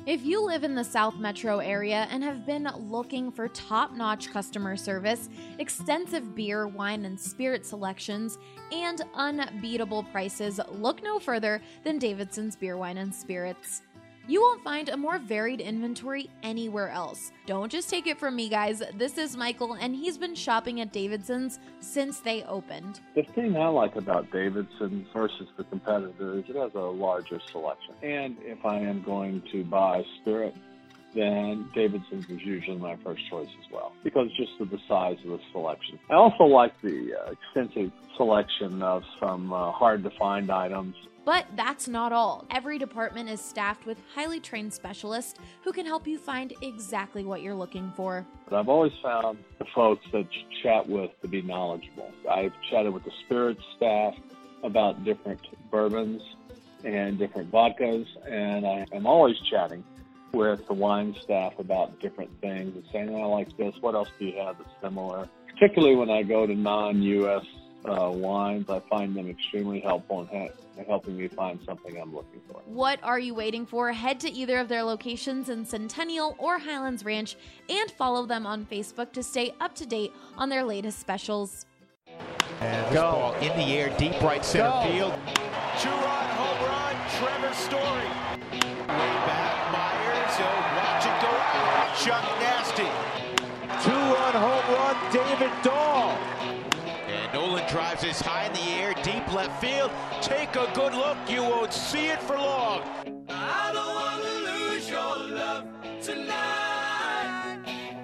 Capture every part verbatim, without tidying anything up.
If you live in the South Metro area and have been looking for top-notch customer service, extensive beer, wine, and spirit selections, and unbeatable prices, look no further than Davidson's Beer, Wine, and Spirits. You won't find a more varied inventory anywhere else. Don't just take it from me, guys. This is Michael, and he's been shopping at Davidson's since they opened. The thing I like about Davidson's versus the competitor is it has a larger selection. And if I am going to buy spirit, then Davidson's is usually my first choice as well, because just of the size of the selection. I also like the uh, extensive selection of some uh, hard-to-find items. But that's not all. Every department is staffed with highly trained specialists who can help you find exactly what you're looking for. But I've always found the folks that you chat with to be knowledgeable. I've chatted with the spirits staff about different bourbons and different vodkas, and I am always chatting with the wine staff about different things and saying, I like this, what else do you have that's similar? Particularly when I go to non-U S Uh, wines, I find them extremely helpful in ha- helping me find something I'm looking for. What are you waiting for? Head to either of their locations in Centennial or Highlands Ranch and follow them on Facebook to stay up to date on their latest specials. And this ball in the air, deep right center Go. field. Two-run home run, Trevor Story. Way back, Myers, he'll watch it go out. Chuck Nasty. Two-run home run, David Dahl. And Nolan drives this high in the air, deep left field. Take a good look, you won't see it for long. I don't want to lose your love tonight.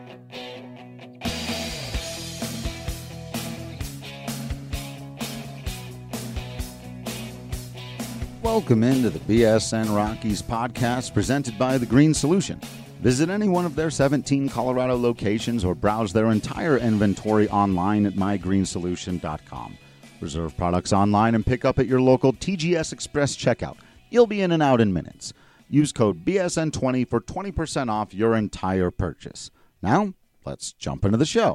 Welcome into the B S N Rockies podcast presented by The Green Solution. Visit any one of their seventeen Colorado locations or browse their entire inventory online at my green solution dot com. Reserve products online and pick up at your local T G S Express checkout. You'll be in and out in minutes. Use code B S N twenty for twenty percent off your entire purchase. Now, let's jump into the show.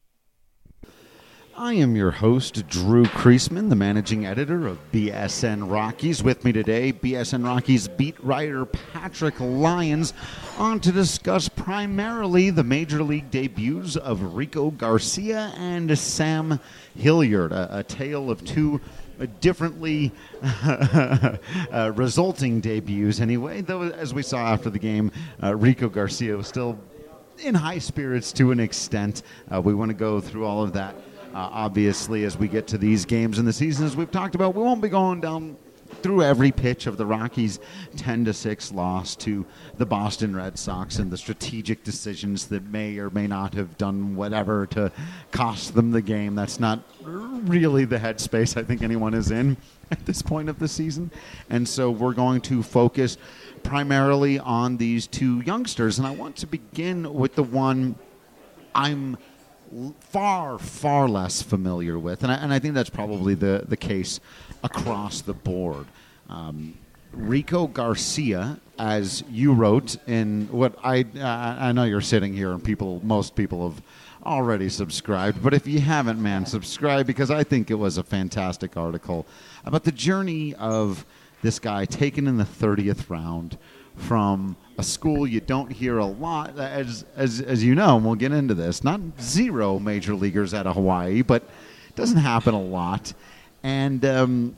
I am your host, Drew Kreisman, the managing editor of B S N Rockies. With me today, B S N Rockies beat writer Patrick Lyons, on to discuss primarily the Major League debuts of Rico Garcia and Sam Hilliard, a, a tale of two differently uh, resulting debuts anyway, though as we saw after the game, uh, Rico Garcia was still in high spirits to an extent. Uh, we want to go through all of that. Uh, obviously, as we get to these games in the season, as we've talked about, we won't be going down through every pitch of the Rockies' ten to six loss to the Boston Red Sox and the strategic decisions that may or may not have done whatever to cost them the game. That's not really the headspace I think anyone is in at this point of the season. And so we're going to focus primarily on these two youngsters. And I want to begin with the one I'm far, far less familiar with, and I, and I think that's probably the, the case across the board. Um, Rico Garcia, as you wrote in what I uh, I know you're sitting here and people, most people have already subscribed, but if you haven't, man, subscribe, because I think it was a fantastic article about the journey of this guy taken in the thirtieth round from a school you don't hear a lot, as as as you know, and we'll get into this, not zero major leaguers out of Hawaii, but it doesn't happen a lot. And um,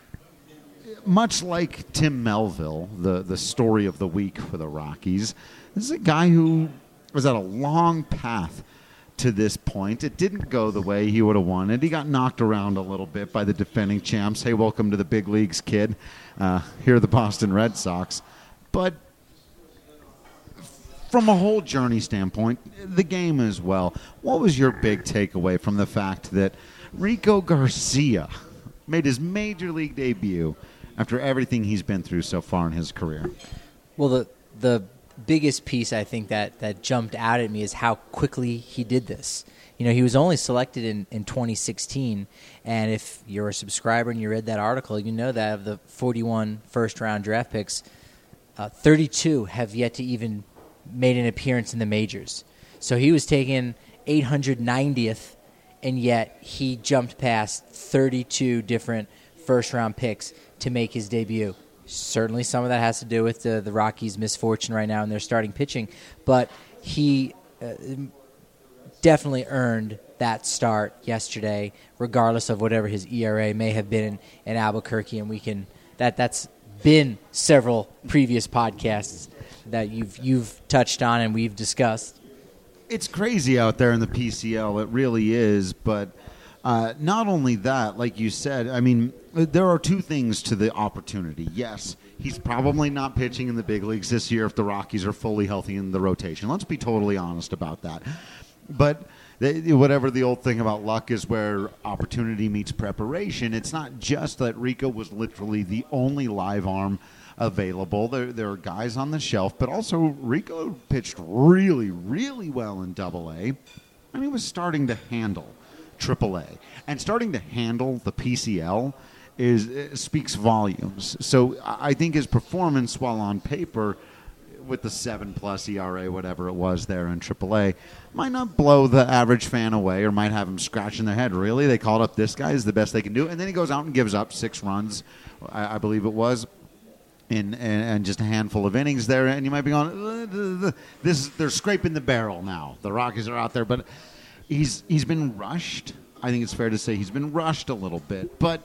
much like Tim Melville, the, the story of the week for the Rockies, this is a guy who was at a long path to this point. It didn't go the way he would have wanted. He got knocked around a little bit by the defending champs. Hey, welcome to the big leagues, kid. Uh, here are the Boston Red Sox. But from a whole journey standpoint, the game as well, what was your big takeaway from the fact that Rico Garcia made his major league debut after everything he's been through so far in his career? Well, the the biggest piece I think that, that jumped out at me is how quickly he did this. You know, he was only selected in, in twenty sixteen, and if you're a subscriber and you read that article, you know that of the forty-one first-round draft picks, uh, thirty-two have yet to even made an appearance in the majors. So he was taken eight hundred ninetieth, and yet he jumped past thirty-two different first-round picks to make his debut. Certainly some of that has to do with the, the Rockies' misfortune right now in their starting pitching. But he uh, definitely earned that start yesterday, regardless of whatever his E R A may have been in, in Albuquerque. And we can that that's been several previous podcasts that you've you've touched on and we've discussed. It's crazy out there in the P C L. It really is. But uh, not only that, like you said, I mean, there are two things to the opportunity. Yes, he's probably not pitching in the big leagues this year if the Rockies are fully healthy in the rotation. Let's be totally honest about that. But they, whatever the old thing about luck is, where opportunity meets preparation, it's not just that Rico was literally the only live arm available. There, there are guys on the shelf, but also Rico pitched really, really well in Double A, and he was starting to handle Triple A. And starting to handle the P C L is uh, speaks volumes. So I think his performance, while on paper, with the seven-plus E R A, whatever it was there in Triple A, might not blow the average fan away or might have him scratching their head. Really? They called up this guy is the best they can do. And then he goes out and gives up six runs, I, I believe it was, in, in, and just a handful of innings there. And you might be going, this, they're scraping the barrel now. The Rockies are out there. But he's he's been rushed. I think it's fair to say he's been rushed a little bit. But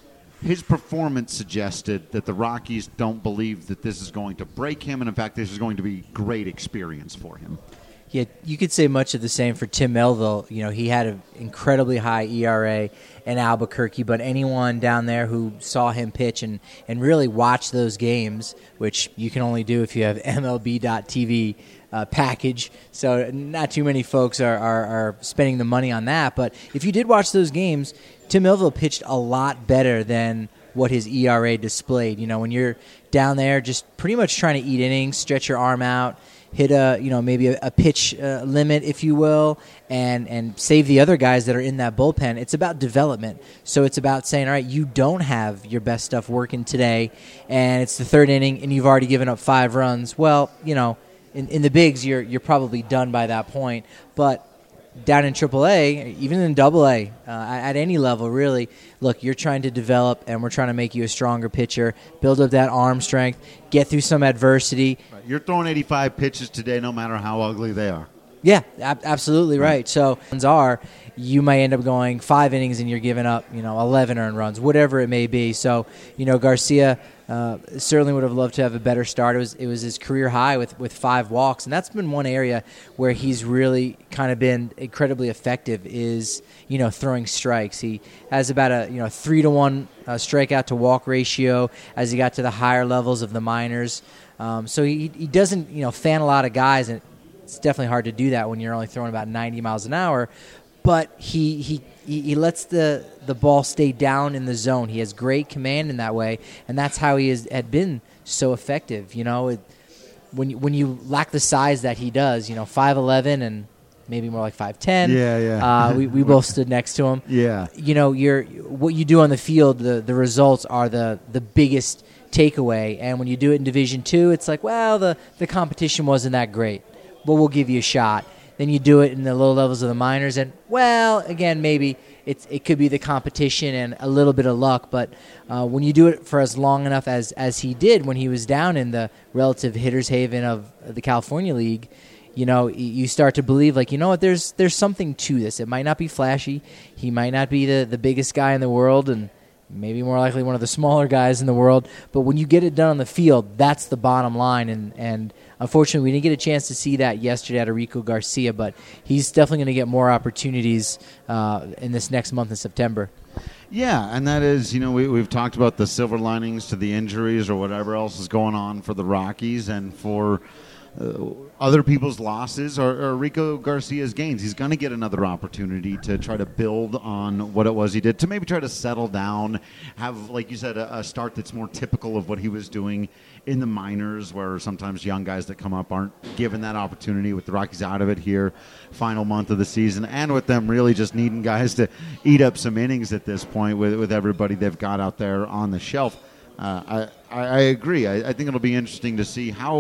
his performance suggested that the Rockies don't believe that this is going to break him, and in fact, this is going to be great experience for him. Yeah, you could say much of the same for Tim Melville. You know, he had an incredibly high E R A in Albuquerque, but anyone down there who saw him pitch and, and really watch those games, which you can only do if you have M L B dot T V uh, package, so not too many folks are, are, are spending the money on that, but if you did watch those games, Tim Melville pitched a lot better than what his E R A displayed. You know, when you're down there just pretty much trying to eat innings, stretch your arm out, hit a, you know, maybe a, a pitch uh, limit, if you will, and, and save the other guys that are in that bullpen. It's about development. So it's about saying, all right, you don't have your best stuff working today, and it's the third inning, and you've already given up five runs. Well, you know, in, in the bigs, you're you're probably done by that point. But down in Triple A, even in Double A, uh, at any level, really, look, you're trying to develop, and we're trying to make you a stronger pitcher, build up that arm strength, get through some adversity. Right. You're throwing eighty-five pitches today, no matter how ugly they are. Yeah, ab- absolutely right. right. So, are you may end up going five innings and you're giving up, you know, eleven earned runs, whatever it may be. So, you know, Garcia uh, certainly would have loved to have a better start. It was it was his career high with, with five walks, and that's been one area where he's really kind of been incredibly effective is, you know, throwing strikes. He has about a, you know, three to one uh, strikeout to walk ratio as he got to the higher levels of the minors. Um, so he he doesn't, you know, fan a lot of guys, and it's definitely hard to do that when you're only throwing about ninety miles an hour. But he he, he lets the, the ball stay down in the zone. He has great command in that way, and that's how he has, had been so effective. You know, it, when you, when you lack the size that he does, you know, five eleven and maybe more like five ten. Yeah, yeah. Uh, we we both stood next to him. Yeah. You know, you're what you do on the field. The the results are the the biggest takeaway. And when you do it in Division Two, it's like, well, the the competition wasn't that great, but we'll give you a shot. Then you do it in the low levels of the minors, and, well, again, maybe it's, it could be the competition and a little bit of luck, but uh, when you do it for as long enough as, as he did when he was down in the relative hitter's haven of the California League, you know, you start to believe, like, you know what, there's there's something to this. It might not be flashy. He might not be the, the biggest guy in the world, and maybe more likely one of the smaller guys in the world, but when you get it done on the field, that's the bottom line, and, and unfortunately, we didn't get a chance to see that yesterday out of Rico Garcia, but he's definitely going to get more opportunities uh, in this next month in September. Yeah, and that is, you know, we, we've talked about the silver linings to the injuries or whatever else is going on for the Rockies and for uh, other people's losses or, or Rico Garcia's gains. He's going to get another opportunity to try to build on what it was he did, to maybe try to settle down, have, like you said, a, a start that's more typical of what he was doing in the minors, where sometimes young guys that come up aren't given that opportunity, with the Rockies out of it here, final month of the season, and with them really just needing guys to eat up some innings at this point with, with everybody they've got out there on the shelf. Uh, I, I, I agree. I, I think it'll be interesting to see how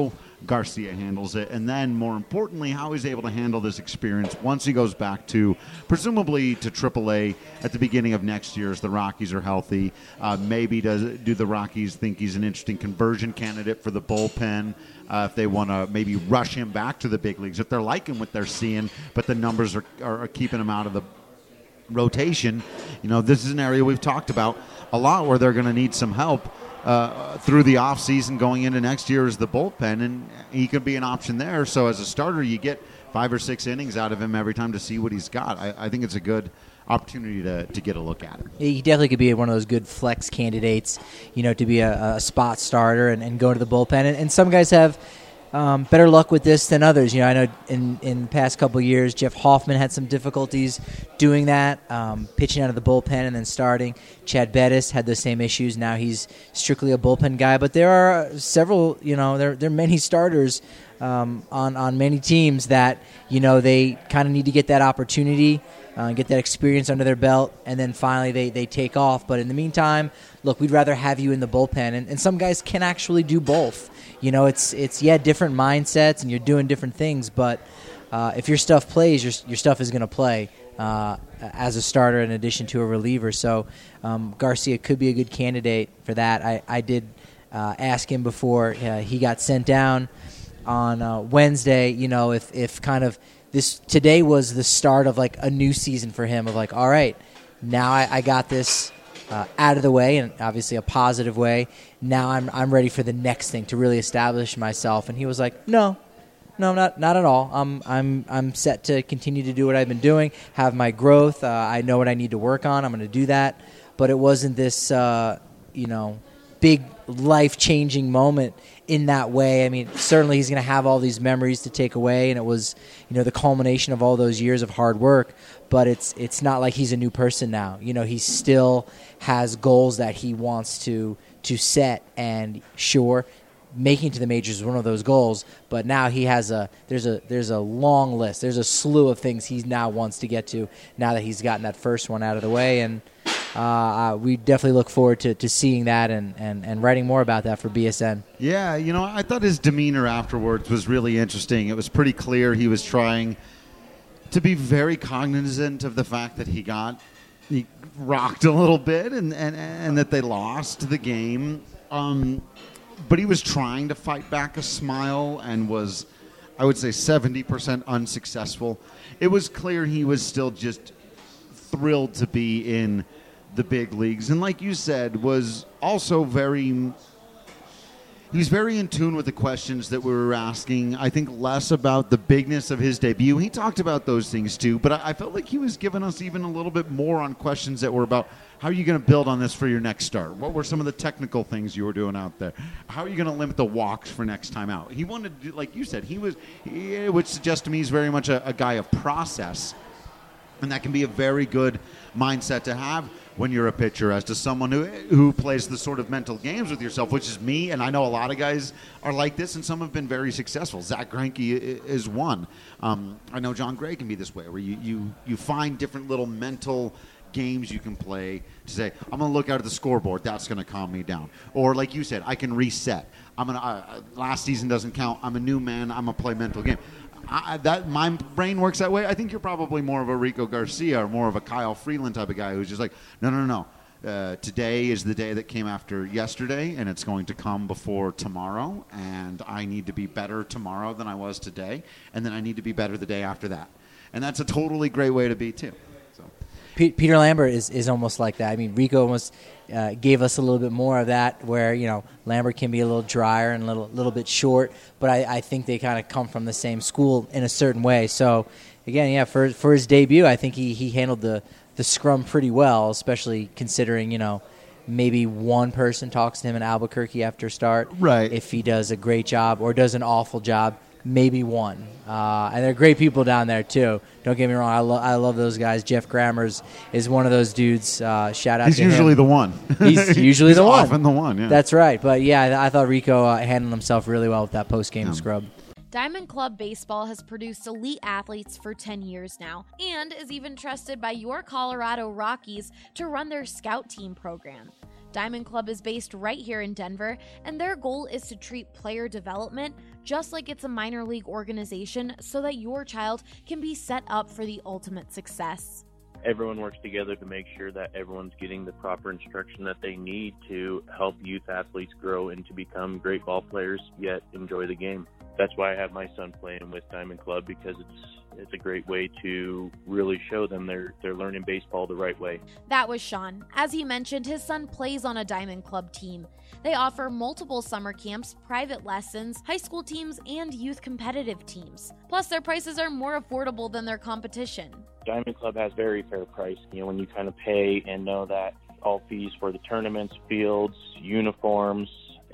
Garcia handles it, and then more importantly, how he's able to handle this experience once he goes back to, presumably to triple A at the beginning of next year as the Rockies are healthy. Uh, maybe does do the Rockies think he's an interesting conversion candidate for the bullpen uh, if they want to maybe rush him back to the big leagues, if they're liking what they're seeing, but the numbers are, are, are keeping him out of the rotation. You know, this is an area we've talked about a lot where they're going to need some help Uh, through the offseason going into next year is the bullpen, and he could be an option there. So as a starter, you get five or six innings out of him every time to see what he's got. I, I think it's a good opportunity to, to get a look at him. He definitely could be one of those good flex candidates, you know, to be a, a spot starter and, and go to the bullpen. And, and some guys have Um, better luck with this than others. You know, I know in in the past couple of years, Jeff Hoffman had some difficulties doing that, um, pitching out of the bullpen and then starting. Chad Bettis had the same issues. Now he's strictly a bullpen guy. But there are several, you know, there there are many starters um, on on many teams that, you know, they kind of need to get that opportunity, uh, get that experience under their belt, and then finally they, they take off. But in the meantime, look, we'd rather have you in the bullpen, and, and some guys can actually do both. You know, it's it's yeah, different mindsets, and you're doing different things. But uh, if your stuff plays, your your stuff is going to play uh, as a starter in addition to a reliever. So um, Garcia could be a good candidate for that. I I did uh, ask him before uh, he got sent down on uh, Wednesday. You know, if if kind of this today was the start of like a new season for him. Of like, all right, now I, I got this Uh, out of the way, and obviously a positive way. Now I'm I'm ready for the next thing to really establish myself. And he was like, no, no, not not at all. I'm I'm I'm set to continue to do what I've been doing, have my growth. Uh, I know what I need to work on. I'm going to do that. But it wasn't this, uh, you know, big life-changing moment in that way. I mean, certainly he's going to have all these memories to take away, and it was, you know, the culmination of all those years of hard work. But it's it's not like he's a new person now. You know, he still has goals that he wants to to set, and sure, making it to the majors is one of those goals. But now he has a there's a there's a long list. There's a slew of things he now wants to get to now that he's gotten that first one out of the way, and uh, we definitely look forward to, to seeing that and, and, and writing more about that for B S N. Yeah, you know, I thought his demeanor afterwards was really interesting. It was pretty clear he was trying to be very cognizant of the fact that he got he rocked a little bit and, and, and that they lost the game. Um, but he was trying to fight back a smile and was, I would say, seventy percent unsuccessful. It was clear he was still just thrilled to be in the big leagues. And like you said, was also very... He's very in tune with the questions that we were asking. I think less about the bigness of his debut. He talked about those things too, but I, I felt like he was giving us even a little bit more on questions that were about how are you going to build on this for your next start? What were some of the technical things you were doing out there? How are you going to limit the walks for next time out? He wanted to do, like you said, he was, he, which suggests to me he's very much a, a guy of process, and that can be a very good mindset to have when you're a pitcher, as to someone who who plays the sort of mental games with yourself, which is me, and I know a lot of guys are like this, and some have been very successful. Zach Greinke is one. Um, I know John Gray can be this way, where you, you, you find different little mental games you can play to say, I'm going to look out at the scoreboard, that's going to calm me down. Or like you said, I can reset. I'm gonna uh, last season doesn't count. I'm a new man. I'm going to play mental game. I, that my brain works that way. I think you're probably more of a Rico Garcia or more of a Kyle Freeland type of guy who's just like, no, no, no, no. Uh, today is the day that came after yesterday, and it's going to come before tomorrow, and I need to be better tomorrow than I was today, and then I need to be better the day after that. And that's a totally great way to be, too. So. Peter Lambert is, is almost like that. I mean, Rico almost uh, gave us a little bit more of that, where, you know, Lambert can be a little drier and a little, little bit short, but I, I think they kind of come from the same school in a certain way. So, again, yeah, for for his debut, I think he, he handled the, the scrum pretty well, especially considering, you know, maybe one person talks to him in Albuquerque after start. Right. If he does a great job or does an awful job, maybe one. Uh, and they're great people down there, too. Don't get me wrong. I, lo- I love those guys. Jeff Grammers is one of those dudes. Uh, shout out He's to him. He's usually the one. He's usually He's the one. often the one, yeah. That's right. But, yeah, I, I thought Rico uh, handled himself really well with that post-game yeah. scrub. Diamond Club Baseball has produced elite athletes for ten years now and is even trusted by your Colorado Rockies to run their scout team program. Diamond Club is based right here in Denver, and their goal is to treat player development just like it's a minor league organization, so that your child can be set up for the ultimate success. Everyone works together to make sure that everyone's getting the proper instruction that they need to help youth athletes grow and to become great ball players, yet enjoy the game. That's why I have my son playing with Diamond Club, because it's it's a great way to really show them they're they're learning baseball the right way. That was Sean. As he mentioned, his son plays on a Diamond Club team. They offer multiple summer camps, private lessons, high school teams, and youth competitive teams. Plus, their prices are more affordable than their competition. Diamond Club has very fair price. You know, when you kind of pay and know that all fees for the tournaments, fields, uniforms,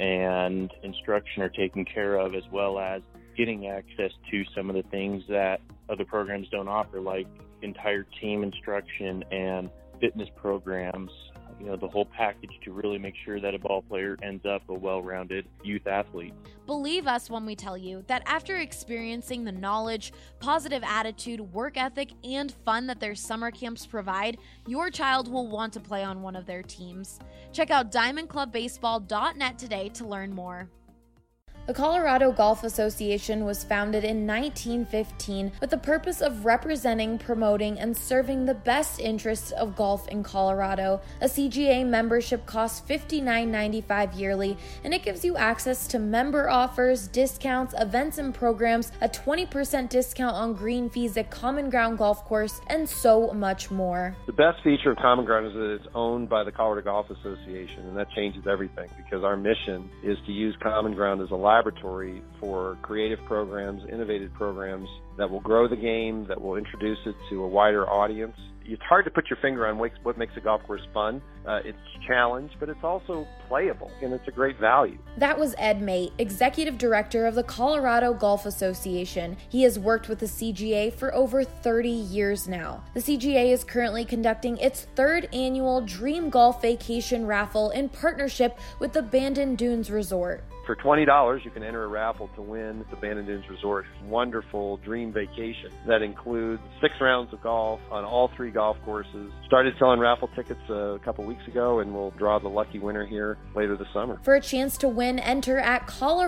and instruction are taken care of, as well as getting access to some of the things that other programs don't offer, like entire team instruction and fitness programs, you know, the whole package to really make sure that a ball player ends up a well-rounded youth athlete. Believe us when we tell you that after experiencing the knowledge, positive attitude, work ethic, and fun that their summer camps provide, your child will want to play on one of their teams. Check out diamond club baseball dot net today to learn more. The Colorado Golf Association was founded in nineteen fifteen with the purpose of representing, promoting, and serving the best interests of golf in Colorado. A C G A membership costs fifty-nine ninety-five yearly, and it gives you access to member offers, discounts, events and programs, a twenty percent discount on green fees at Common Ground Golf Course, and so much more. The best feature of Common Ground is that it's owned by the Colorado Golf Association, and that changes everything, because our mission is to use Common Ground as a laboratory for creative programs, innovative programs that will grow the game, that will introduce it to a wider audience. It's hard to put your finger on what makes a golf course fun. Uh, it's a challenge, but it's also playable, and it's a great value. That was Ed Mate, Executive Director of the Colorado Golf Association. He has worked with the C G A for over thirty years now. The C G A is currently conducting its third annual Dream Golf Vacation Raffle in partnership with the Bandon Dunes Resort. For twenty dollars, you can enter a raffle to win the Bandon Dunes Resort wonderful dream vacation that includes six rounds of golf on all three golf courses. Started selling raffle tickets a couple weeks ago, and we'll draw the lucky winner here later this summer. For a chance to win, enter at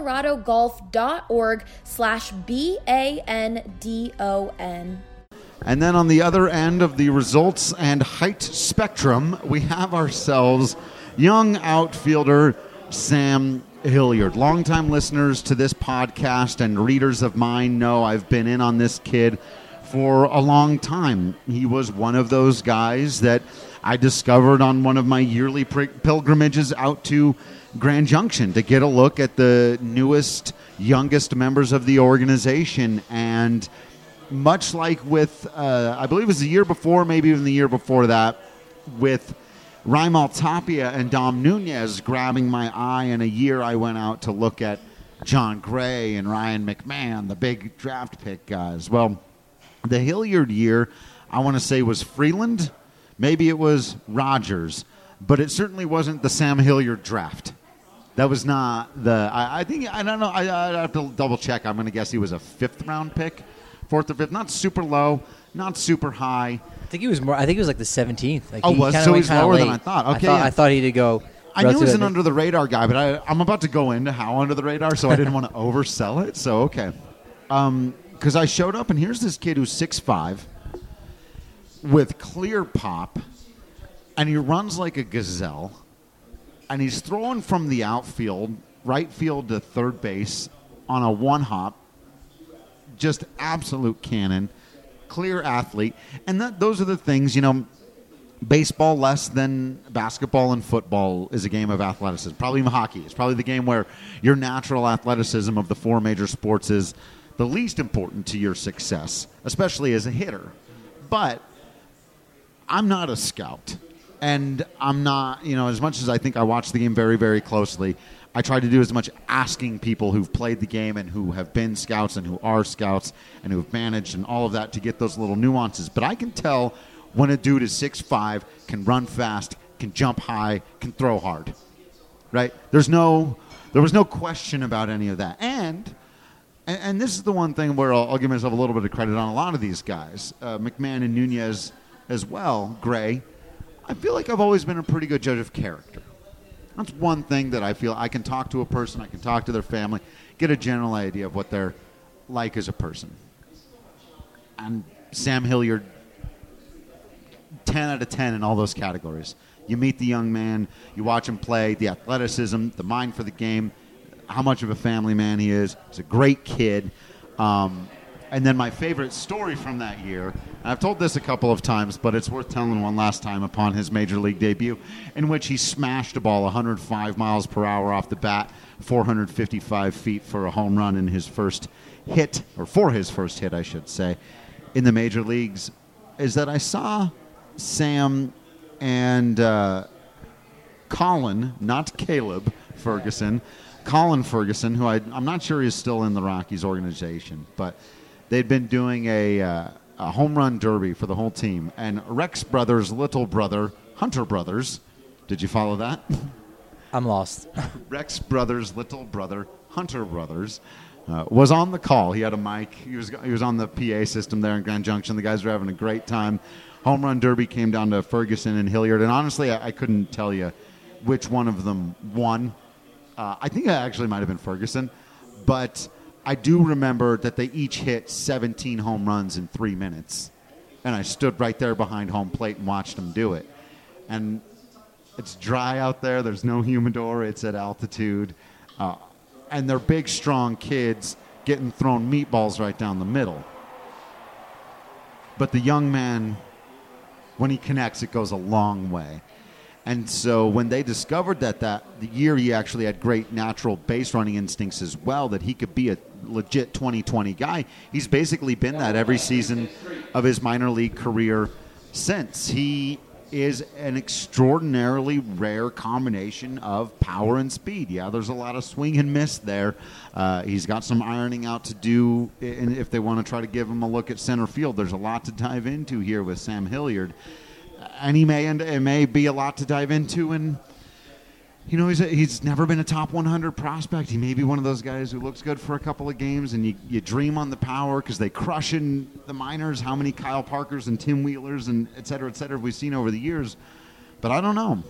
coloradogolf.org slash B-A-N-D-O-N. And then on the other end of the results and height spectrum, we have ourselves young outfielder Sam Hilliard. Longtime listeners to this podcast and readers of mine know I've been in on this kid for a long time. He was one of those guys that I discovered on one of my yearly pilgrimages out to Grand Junction to get a look at the newest, youngest members of the organization. And much like with, uh, I believe it was the year before, maybe even the year before that, with Raimel Tapia and Dom Nunez grabbing my eye, in a year I went out to look at John Gray and Ryan McMahon, the big draft pick guys. Well, the Hilliard year, I want to say, was Freeland. Maybe it was Rogers, but it certainly wasn't the Sam Hilliard draft. That was not the, I, I think, I don't know, I, I have to double check. I'm going to guess he was a fifth round pick, fourth or fifth, not super low, not super high. I think he was more. I think he was like the seventeenth. Like oh, he was kinda so went he's lower late. than I thought. Okay, I thought, yeah. I thought he did go. I knew he was an the, under the radar guy, but I, I'm about to go into how under the radar, so I didn't want to oversell it. So okay, um, because I showed up and here's this kid who's six five with clear pop, and he runs like a gazelle, and he's throwing from the outfield, right field to third base on a one hop, just absolute cannon. Clear athlete, and that, those are the things, you know, baseball less than basketball and football is a game of athleticism. Probably even hockey. It's probably the game where your natural athleticism of the four major sports is the least important to your success, especially as a hitter. But I'm not a scout, and I'm not, you know, as much as I think I watch the game very, very closely, I try to do as much asking people who've played the game and who have been scouts and who are scouts and who have managed and all of that to get those little nuances. But I can tell when a dude is six five, can run fast, can jump high, can throw hard, right? There's no, there was no question about any of that. And and, and this is the one thing where I'll, I'll give myself a little bit of credit on a lot of these guys, uh, McMahon and Nunez as well, Gray. I feel like I've always been a pretty good judge of character. That's one thing that I feel I can talk to a person, I can talk to their family, get a general idea of what they're like as a person. And Sam Hilliard, ten out of ten in all those categories. You meet the young man, you watch him play, the athleticism, the mind for the game, how much of a family man he is. He's a great kid. Um, and then my favorite story from that year, and I've told this a couple of times, but it's worth telling one last time upon his major league debut, in which he smashed a ball one hundred five miles per hour off the bat, four hundred fifty-five feet for a home run in his first hit, or for his first hit, I should say, in the major leagues, is that I saw Sam and uh, Colin, not Caleb Ferguson, Colin Ferguson, who I, I'm not sure is still in the Rockies organization, but they'd been doing a, uh, a home run derby for the whole team. And Rex Brothers' little brother, Hunter Brothers, did you follow that? I'm lost. Rex Brothers' little brother, Hunter Brothers, uh, was on the call. He had a mic. He was he was on the P A system there in Grand Junction. The guys were having a great time. Home run derby came down to Ferguson and Hilliard. And honestly, I, I couldn't tell you which one of them won. Uh, I think it actually might have been Ferguson, but I do remember that they each hit seventeen home runs in three minutes, and I stood right there behind home plate and watched them do it. And it's dry out there. There's no humidor. It's at altitude. Uh, and they're big, strong kids getting thrown meatballs right down the middle. But the young man, when he connects, it goes a long way. And so when they discovered that that the year he actually had great natural base running instincts as well, that he could be a legit twenty twenty guy, he's basically been that every season of his minor league career since. He is an extraordinarily rare combination of power and speed. Yeah, there's a lot of swing and miss there. Uh, he's got some ironing out to do, and if they want to try to give him a look at center field, there's a lot to dive into here with Sam Hilliard. And he may end, it may be a lot to dive into, and you know he's a, he's never been a top one hundred prospect. He may be one of those guys who looks good for a couple of games, and you, you dream on the power because they crush in the minors. How many Kyle Parkers and Tim Wheelers and et cetera, et cetera have we seen over the years? But I don't know.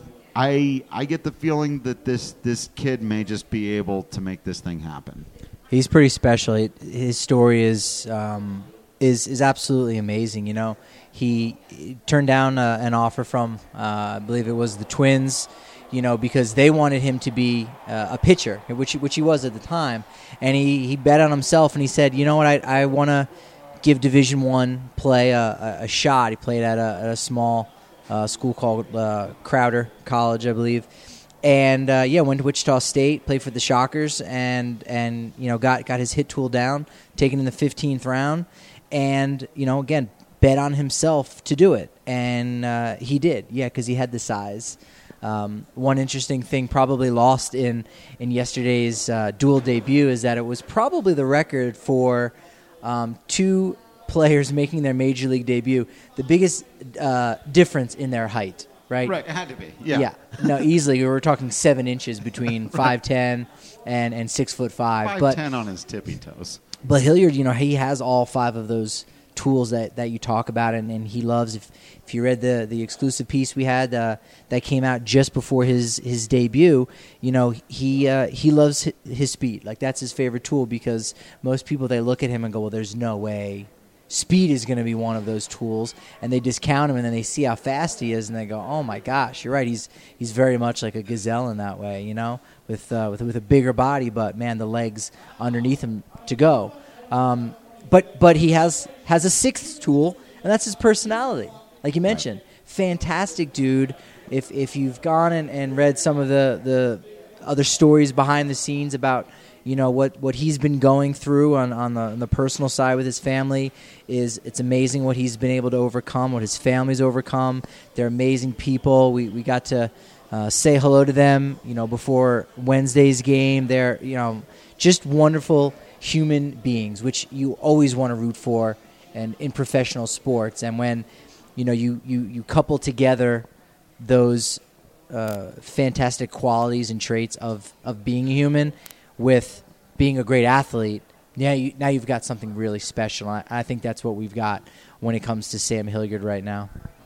I I get the feeling that this this kid may just be able to make this thing happen. He's pretty special. His story is um, is is absolutely amazing. You know. He turned down uh, an offer from, uh, I believe it was the Twins, you know, because they wanted him to be uh, a pitcher, which which he was at the time. And he, he bet on himself, and he said, you know what, I I want to give Division One play a, a, a shot. He played at a, at a small uh, school called uh, Crowder College, I believe. And, uh, yeah, went to Wichita State, played for the Shockers, and, and you know, got, got his hit tool down, taken in the fifteenth round. And, you know, again, bet on himself to do it, and uh, he did, yeah, because he had the size. Um, one interesting thing probably lost in, in yesterday's uh, dual debut is that it was probably the record for um, two players making their major league debut, the biggest uh, difference in their height, right? Right, it had to be, yeah. Yeah, no, easily. We were talking seven inches between five ten and, and six foot five. five ten on his tippy toes. But Hilliard, you know, he has all five of those tools that, that you talk about, and, and he loves. If if you read the, the exclusive piece we had uh, that came out just before his, his debut, you know, he uh, he loves his, his speed. Like, that's his favorite tool, because most people, they look at him and go, well, there's no way speed is going to be one of those tools, and they discount him, and then they see how fast he is, and they go, oh my gosh, you're right, he's he's very much like a gazelle in that way, you know, with uh, with with a bigger body, but man, the legs underneath him to go. Um, But but he has has a sixth tool, and that's his personality. Like you mentioned, right. Fantastic dude. If if you've gone and, and read some of the, the other stories behind the scenes about, you know, what, what he's been going through on, on, the, on the personal side with his family, is it's amazing what he's been able to overcome, what his family's overcome. They're amazing people. We we got to uh, say hello to them, you know, before Wednesday's game. They're, you know, just wonderful human beings, which you always want to root for and in professional sports. And when, you know, you, you, you couple together those uh, fantastic qualities and traits of, of being a human with being a great athlete, now, you, now you've got something really special. I, I think that's what we've got when it comes to Sam Hilliard right now.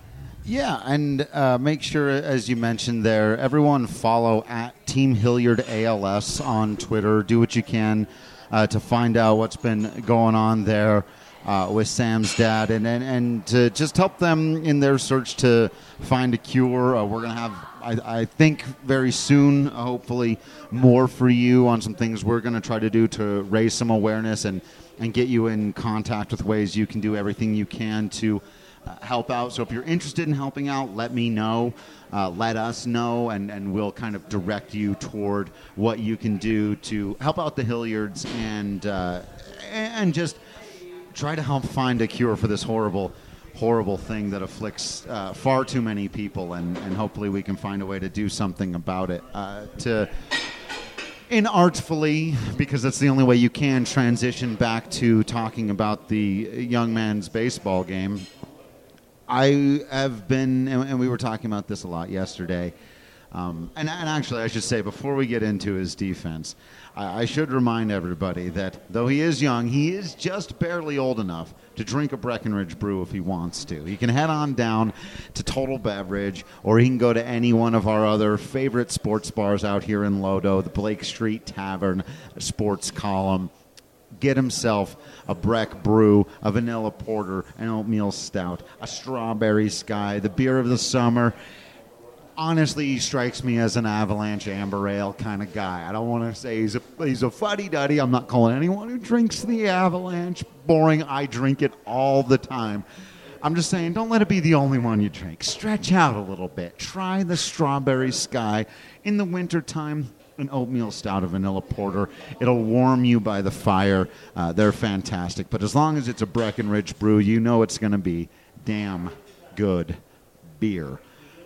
Yeah, and uh, make sure, as you mentioned there, everyone follow at Team Hilliard A L S on Twitter. Do what you can uh, to find out what's been going on there uh, with Sam's dad, and, and, and to just help them in their search to find a cure. Uh, we're going to have, I, I think, very soon, uh, hopefully, more for you on some things we're going to try to do to raise some awareness and, and get you in contact with ways you can do everything you can to Uh, help out. So if you're interested in helping out, let me know. Uh, let us know, and, and we'll kind of direct you toward what you can do to help out the Hilliards and uh, and just try to help find a cure for this horrible, horrible thing that afflicts uh, far too many people, and, and hopefully we can find a way to do something about it. Uh, to inartfully, because that's the only way you can transition back to talking about the young man's baseball game. I have been, and we were talking about this a lot yesterday, um, and, and actually I should say, before we get into his defense, I, I should remind everybody that though he is young, he is just barely old enough to drink a Breckenridge brew if he wants to. He can head on down to Total Beverage, or he can go to any one of our other favorite sports bars out here in Lodo, the Blake Street Tavern, Sports Column. Get himself a Breck Brew, a vanilla porter, an oatmeal stout, a strawberry sky, the beer of the summer. Honestly, he strikes me as an Avalanche Amber Ale kind of guy. I don't want to say he's a he's a fuddy-duddy. I'm not calling anyone who drinks the Avalanche boring. I drink it all the time. I'm just saying, don't let it be the only one you drink. Stretch out a little bit. Try the strawberry sky in the wintertime. An oatmeal stout, a vanilla porter. It'll warm you by the fire. Uh, they're fantastic. But as long as it's a Breckenridge brew, you know it's going to be damn good beer.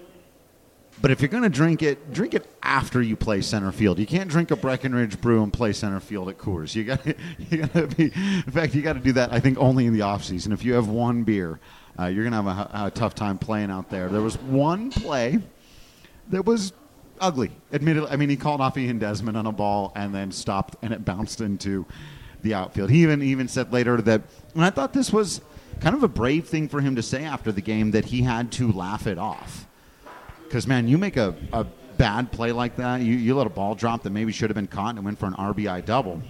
But if you're going to drink it, drink it after you play center field. You can't drink a Breckenridge brew and play center field at Coors. You got you got to be. In fact, you got to do that, I think, only in the off season. If you have one beer, uh, you're going to have a, a tough time playing out there. There was one play that was ugly, admittedly. I mean, he called off Ian Desmond on a ball and then stopped, and it bounced into the outfield. He even even said later that, and I thought this was kind of a brave thing for him to say after the game, that he had to laugh it off. Because, man, you make a, a bad play like that, you, you let a ball drop that maybe should have been caught and went for an R B I double.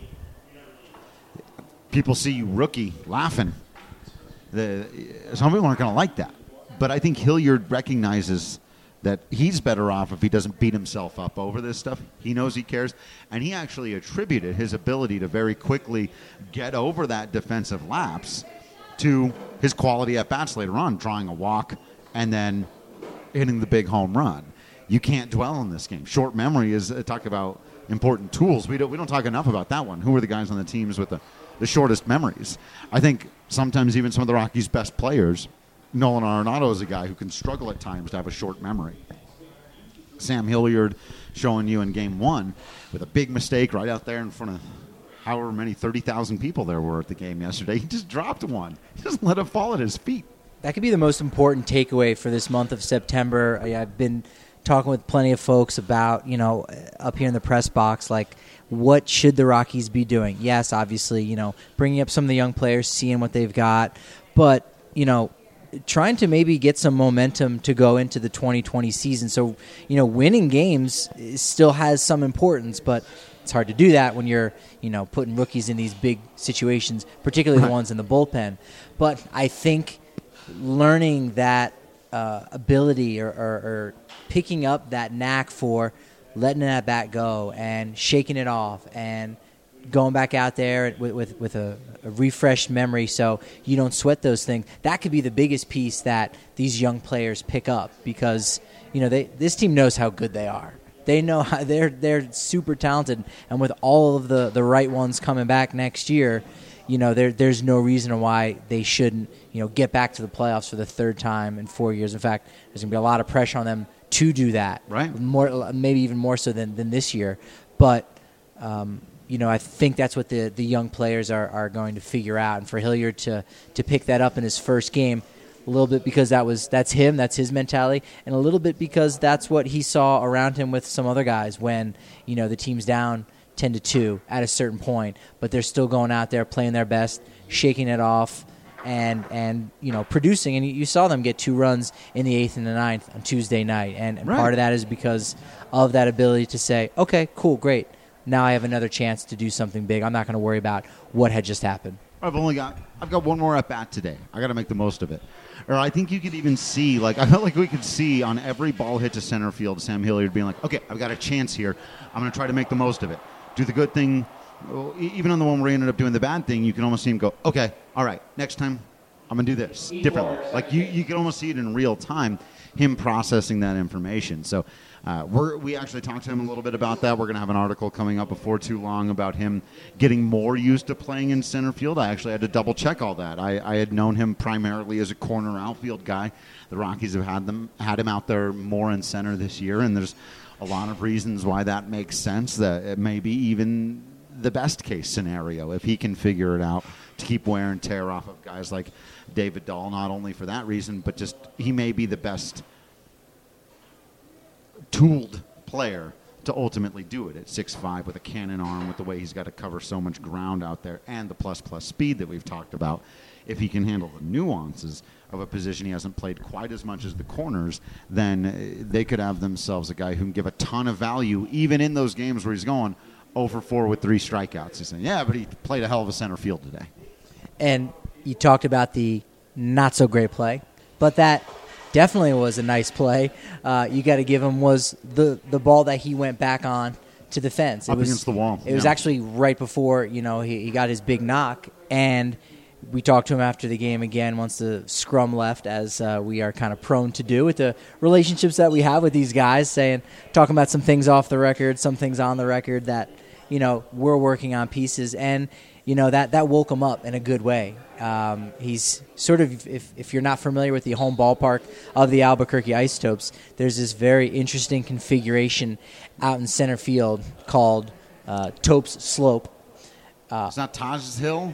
People see you rookie laughing. The, some people aren't going to like that. But I think Hilliard recognizes that he's better off if he doesn't beat himself up over this stuff. He knows he cares. And he actually attributed his ability to very quickly get over that defensive lapse to his quality at bats later on, drawing a walk and then hitting the big home run. You can't dwell in this game. Short memory is uh, talk about important tools. We don't we don't talk enough about that one. Who are the guys on the teams with the, the shortest memories? I think sometimes even some of the Rockies' best players, Nolan Arenado is a guy who can struggle at times to have a short memory. Sam Hilliard showing you in game one with a big mistake right out there in front of however many thirty thousand people there were at the game yesterday. He just dropped one. He just let it fall at his feet. That could be the most important takeaway for this month of September. I, I've been talking with plenty of folks about, you know, up here in the press box, like, what should the Rockies be doing? Yes, obviously, you know, bringing up some of the young players, seeing what they've got, but, you know, trying to maybe get some momentum to go into the twenty twenty season. So, you know, winning games still has some importance, but it's hard to do that when you're, you know, putting rookies in these big situations, particularly the ones in the bullpen. But I think learning that uh, ability or, or, or picking up that knack for letting that bat go and shaking it off and going back out there with with, with a, a refreshed memory so you don't sweat those things, that could be the biggest piece that these young players pick up, because, you know, they this team knows how good they are. They know how they're they're super talented, and with all of the, the right ones coming back next year, you know, there there's no reason why they shouldn't, you know, get back to the playoffs for the third time in four years. In fact, there's going to be a lot of pressure on them to do that, right? More, maybe even more so than, than this year. But, um, you know, I think that's what the, the young players are, are going to figure out. And for Hilliard to, to pick that up in his first game, a little bit because that was that's him, that's his mentality, and a little bit because that's what he saw around him with some other guys when, you know, the team's down ten to two at a certain point, but they're still going out there playing their best, shaking it off, and and you know producing. And you saw them get two runs in the eighth and the ninth on Tuesday night, and, and Right. part of that is because of that ability to say, okay, cool, great. Now I have another chance to do something big. I'm not going to worry about what had just happened. I've only got I've got one more at bat today. I got to make the most of it. Or I think you could even see, like I felt like we could see on every ball hit to center field, Sam Hilliard being like, okay, I've got a chance here. I'm going to try to make the most of it. Do the good thing. Well, e- even on the one where he ended up doing the bad thing, you can almost see him go, okay, all right, next time I'm going to do this differently. Like you, you can almost see it in real time, him processing that information. So uh, we're, we actually talked to him a little bit about that. We're going to have an article coming up before too long about him getting more used to playing in center field. I actually had to double check all that. I, I had known him primarily as a corner outfield guy. The Rockies have had them had him out there more in center this year, and there's a lot of reasons why that makes sense. That it may be even the best case scenario if he can figure it out to keep wear and tear off of guys like David Dahl, not only for that reason, but just he may be the best tooled player to ultimately do it at six five with a cannon arm, with the way he's got to cover so much ground out there, and the plus plus speed that we've talked about. If he can handle the nuances of a position he hasn't played quite as much as the corners, then they could have themselves a guy who can give a ton of value even in those games where he's going oh for four with three strikeouts. He's saying, yeah, but he played a hell of a center field today. And you talked about the not-so-great play, but that definitely was a nice play. Uh, you got to give him was the, the ball that he went back on to the fence. It Up was, against the wall. It was Yeah. actually right before, you know, he, he got his big knock, and we talked to him after the game again once the scrum left, as uh, we are kind of prone to do with the relationships that we have with these guys, saying, talking about some things off the record, some things on the record that, you know, we're working on pieces, and you know that that woke him up in a good way. Um, he's sort of, if if you're not familiar with the home ballpark of the Albuquerque Isotopes, there's this very interesting configuration out in center field called uh, Topes Slope. Uh, it's not Taj's Hill?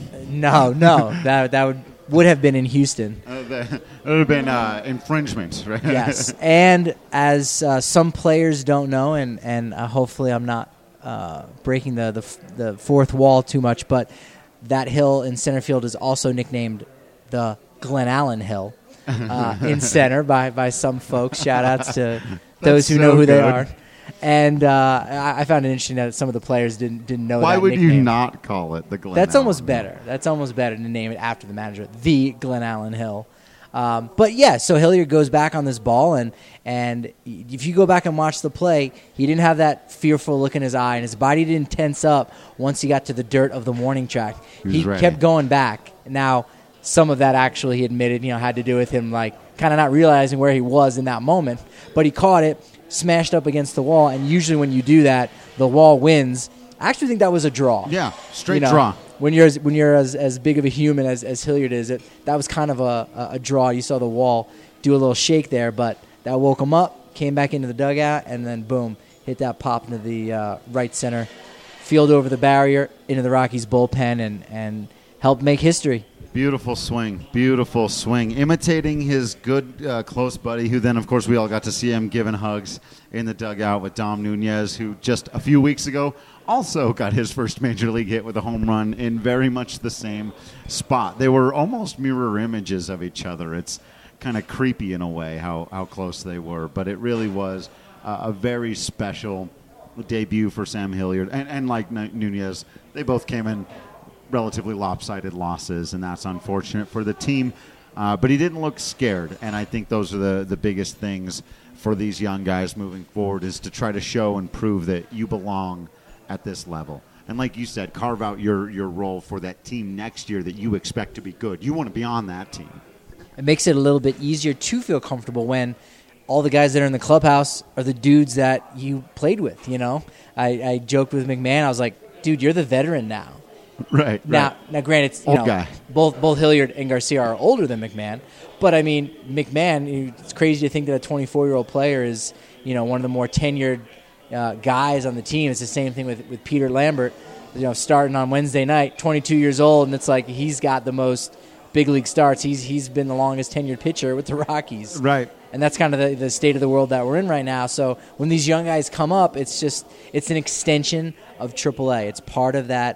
No, no, that that would would have been in Houston. Uh, that would have been uh, infringement, right? Yes, and as uh, some players don't know, and and uh, hopefully I'm not uh, breaking the, the the fourth wall too much, but that hill in center field is also nicknamed the Glen Allen Hill uh, in center by by some folks. Shout outs to those who so know who good. they are. And uh, I, I found it interesting that some of the players didn't didn't know. Why that would nickname. you not call it the Glen That's Allen almost Hill? better. That's almost better to name it after the manager, the Glen Allen Hill. Um, but yeah, so Hilliard goes back on this ball, and and if you go back and watch the play, he didn't have that fearful look in his eye, and his body didn't tense up once he got to the dirt of the warning track. He was He ready. kept going back. Now, some of that actually, he admitted, you know, had to do with him like kind of not realizing where he was in that moment. But he caught it, smashed up against the wall, and usually when you do that, the wall wins. I actually think that was a draw. Yeah, straight You know, draw. When you're as, when you're as, as big of a human as, as Hilliard is, it that was kind of a, a, a draw. You saw the wall do a little shake there, but that woke him up, came back into the dugout, and then boom, hit that pop into the uh, right center field over the barrier into the Rockies bullpen, and, and helped make history. Beautiful swing. Beautiful swing. Imitating his good uh, close buddy, who then, of course, we all got to see him giving hugs in the dugout with Dom Nunez, who just a few weeks ago also got his first major league hit with a home run in very much the same spot. They were almost mirror images of each other. It's kind of creepy in a way how, how close they were, but it really was uh, a very special debut for Sam Hilliard. And, and like Nunez, they both came in relatively lopsided losses, and that's unfortunate for the team. Uh, but he didn't look scared, and I think those are the, the biggest things for these young guys moving forward, is to try to show and prove that you belong at this level. And like you said, carve out your, your role for that team next year that you expect to be good. You want to be on that team. It makes it a little bit easier to feel comfortable when all the guys that are in the clubhouse are the dudes that you played with, you know? I, I joked with McMahon. I was like, dude, you're the veteran now. Right. Now, right. now, granted, it's, you Old know, guy. both both Hilliard and Garcia are older than McMahon, but I mean, McMahon. It's crazy to think that a twenty-four-year-old player is, you know, one of the more tenured uh, guys on the team. It's the same thing with with Peter Lambert, you know, starting on Wednesday night, twenty-two years old, and it's like he's got the most big league starts. He's he's been the longest tenured pitcher with the Rockies, Right. and that's kind of the, the state of the world that we're in right now. So when these young guys come up, it's just it's an extension of triple A. It's part of that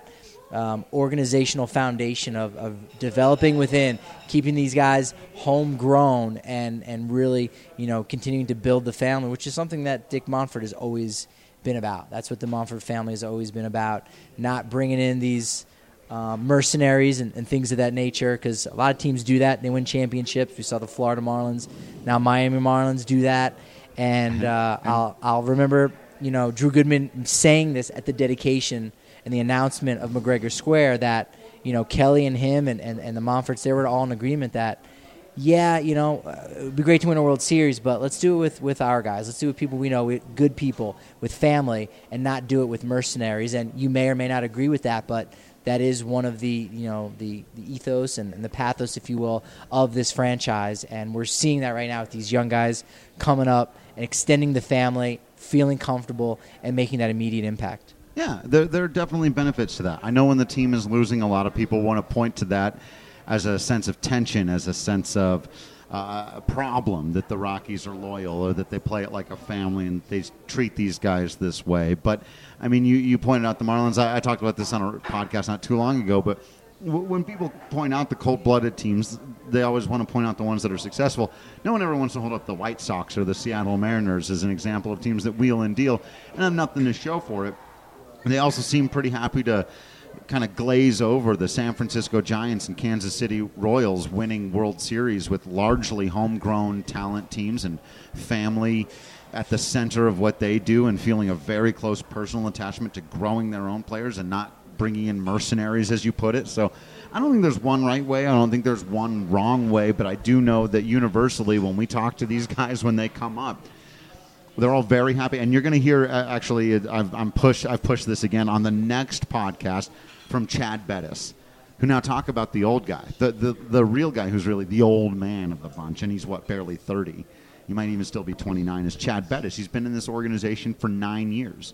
um, organizational foundation of, of developing within, keeping these guys homegrown, and and really, you know, continuing to build the family, which is something that Dick Monfort has always been about. That's what the Monfort family has always been about, not bringing in these uh, mercenaries and, and things of that nature, because a lot of teams do that. They win championships. We saw the Florida Marlins. Now Miami Marlins do that. And uh, I'll I'll remember, you know, Drew Goodman saying this at the dedication and the announcement of McGregor Square, that, you know, Kelly and him and, and, and the Monforts, they were all in agreement that, yeah, you know, uh, it would be great to win a World Series, but let's do it with, with our guys. Let's do it with people we know, with good people, with family, and not do it with mercenaries. And you may or may not agree with that, but that is one of the, you know, the, the ethos and, and the pathos, if you will, of this franchise. And we're seeing that right now with these young guys coming up and extending the family, feeling comfortable, and making that immediate impact. Yeah, there, there are definitely benefits to that. I know when the team is losing, a lot of people want to point to that as a sense of tension, as a sense of uh, a problem, that the Rockies are loyal or that they play it like a family and they treat these guys this way. But, I mean, you, you pointed out the Marlins. I, I talked about this on a podcast not too long ago, but w- when people point out the cold-blooded teams, they always want to point out the ones that are successful. No one ever wants to hold up the White Sox or the Seattle Mariners as an example of teams that wheel and deal and have nothing to show for it. They also seem pretty happy to kind of glaze over the San Francisco Giants and Kansas City Royals winning World Series with largely homegrown talent teams and family at the center of what they do, and feeling a very close personal attachment to growing their own players and not bringing in mercenaries, as you put it. So I don't think there's one right way. I don't think there's one wrong way, but I do know that universally when we talk to these guys when they come up, they're all very happy. And you're going to hear, uh, actually, I've, I'm push, I've pushed this again on the next podcast from Chad Bettis, who now talk about the old guy, the, the, the real guy who's really the old man of the bunch, and he's, what, barely thirty. He might even still be twenty-nine, is Chad Bettis. He's been in this organization for nine years.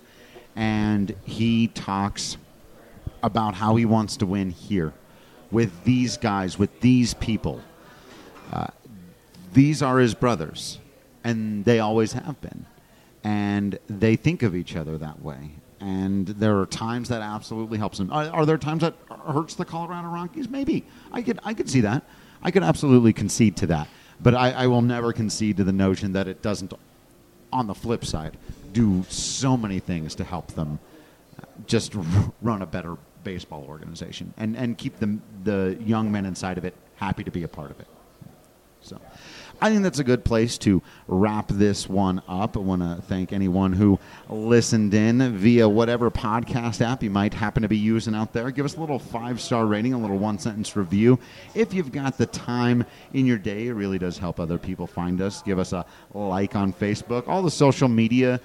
And he talks about how he wants to win here with these guys, with these people. Uh, these are his brothers, and they always have been. And they think of each other that way. And there are times that absolutely helps them. Are, are there times that hurts the Colorado Rockies? Maybe. I could I could see that. I could absolutely concede to that. But I, I will never concede to the notion that it doesn't, on the flip side, do so many things to help them just r- run a better baseball organization and, and keep the, the young men inside of it happy to be a part of it. So I think that's a good place to wrap this one up. I want to thank anyone who listened in via whatever podcast app you might happen to be using out there. Give us a little five-star rating, a little one-sentence review. If you've got the time in your day, it really does help other people find us. Give us a like on Facebook. All the social media,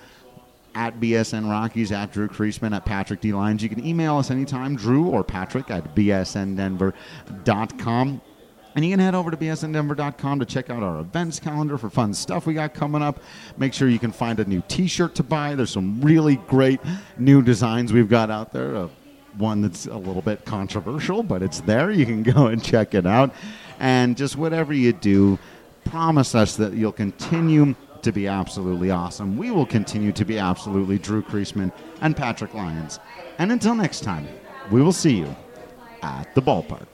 at B S N Rockies, at Drew Creasman, at Patrick D. Lyons. You can email us anytime, Drew or Patrick, at b s n denver dot com. And you can head over to b s n denver dot com to check out our events calendar for fun stuff we got coming up. Make sure you can find a new T-shirt to buy. There's some really great new designs we've got out there. Uh, one that's a little bit controversial, but it's there. You can go and check it out. And just whatever you do, promise us that you'll continue to be absolutely awesome. We will continue to be absolutely Drew Creasman and Patrick Lyons. And until next time, we will see you at the ballpark.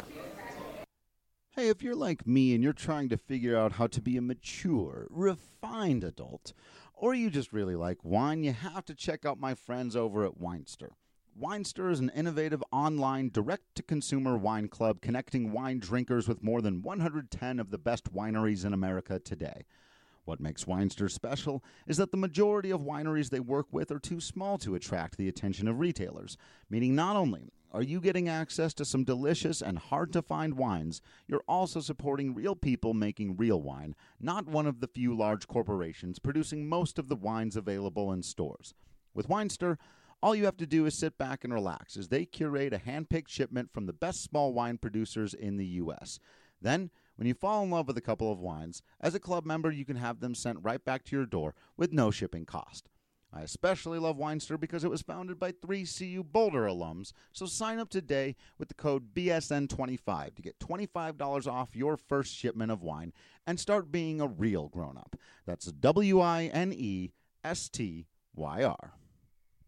Hey, if you're like me and you're trying to figure out how to be a mature, refined adult, or you just really like wine, you have to check out my friends over at Winester. Winester is an innovative online direct-to-consumer wine club connecting wine drinkers with more than one hundred ten of the best wineries in America today. What makes Winester special is that the majority of wineries they work with are too small to attract the attention of retailers, meaning not only are you getting access to some delicious and hard-to-find wines, you're also supporting real people making real wine, not one of the few large corporations producing most of the wines available in stores. With Winester, all you have to do is sit back and relax as they curate a hand-picked shipment from the best small wine producers in the U S Then, when you fall in love with a couple of wines, as a club member, you can have them sent right back to your door with no shipping cost. I especially love Winester because it was founded by three C U Boulder alums, so sign up today with the code B S N twenty-five to get twenty-five dollars off your first shipment of wine and start being a real grown-up. That's W I N E S T Y R.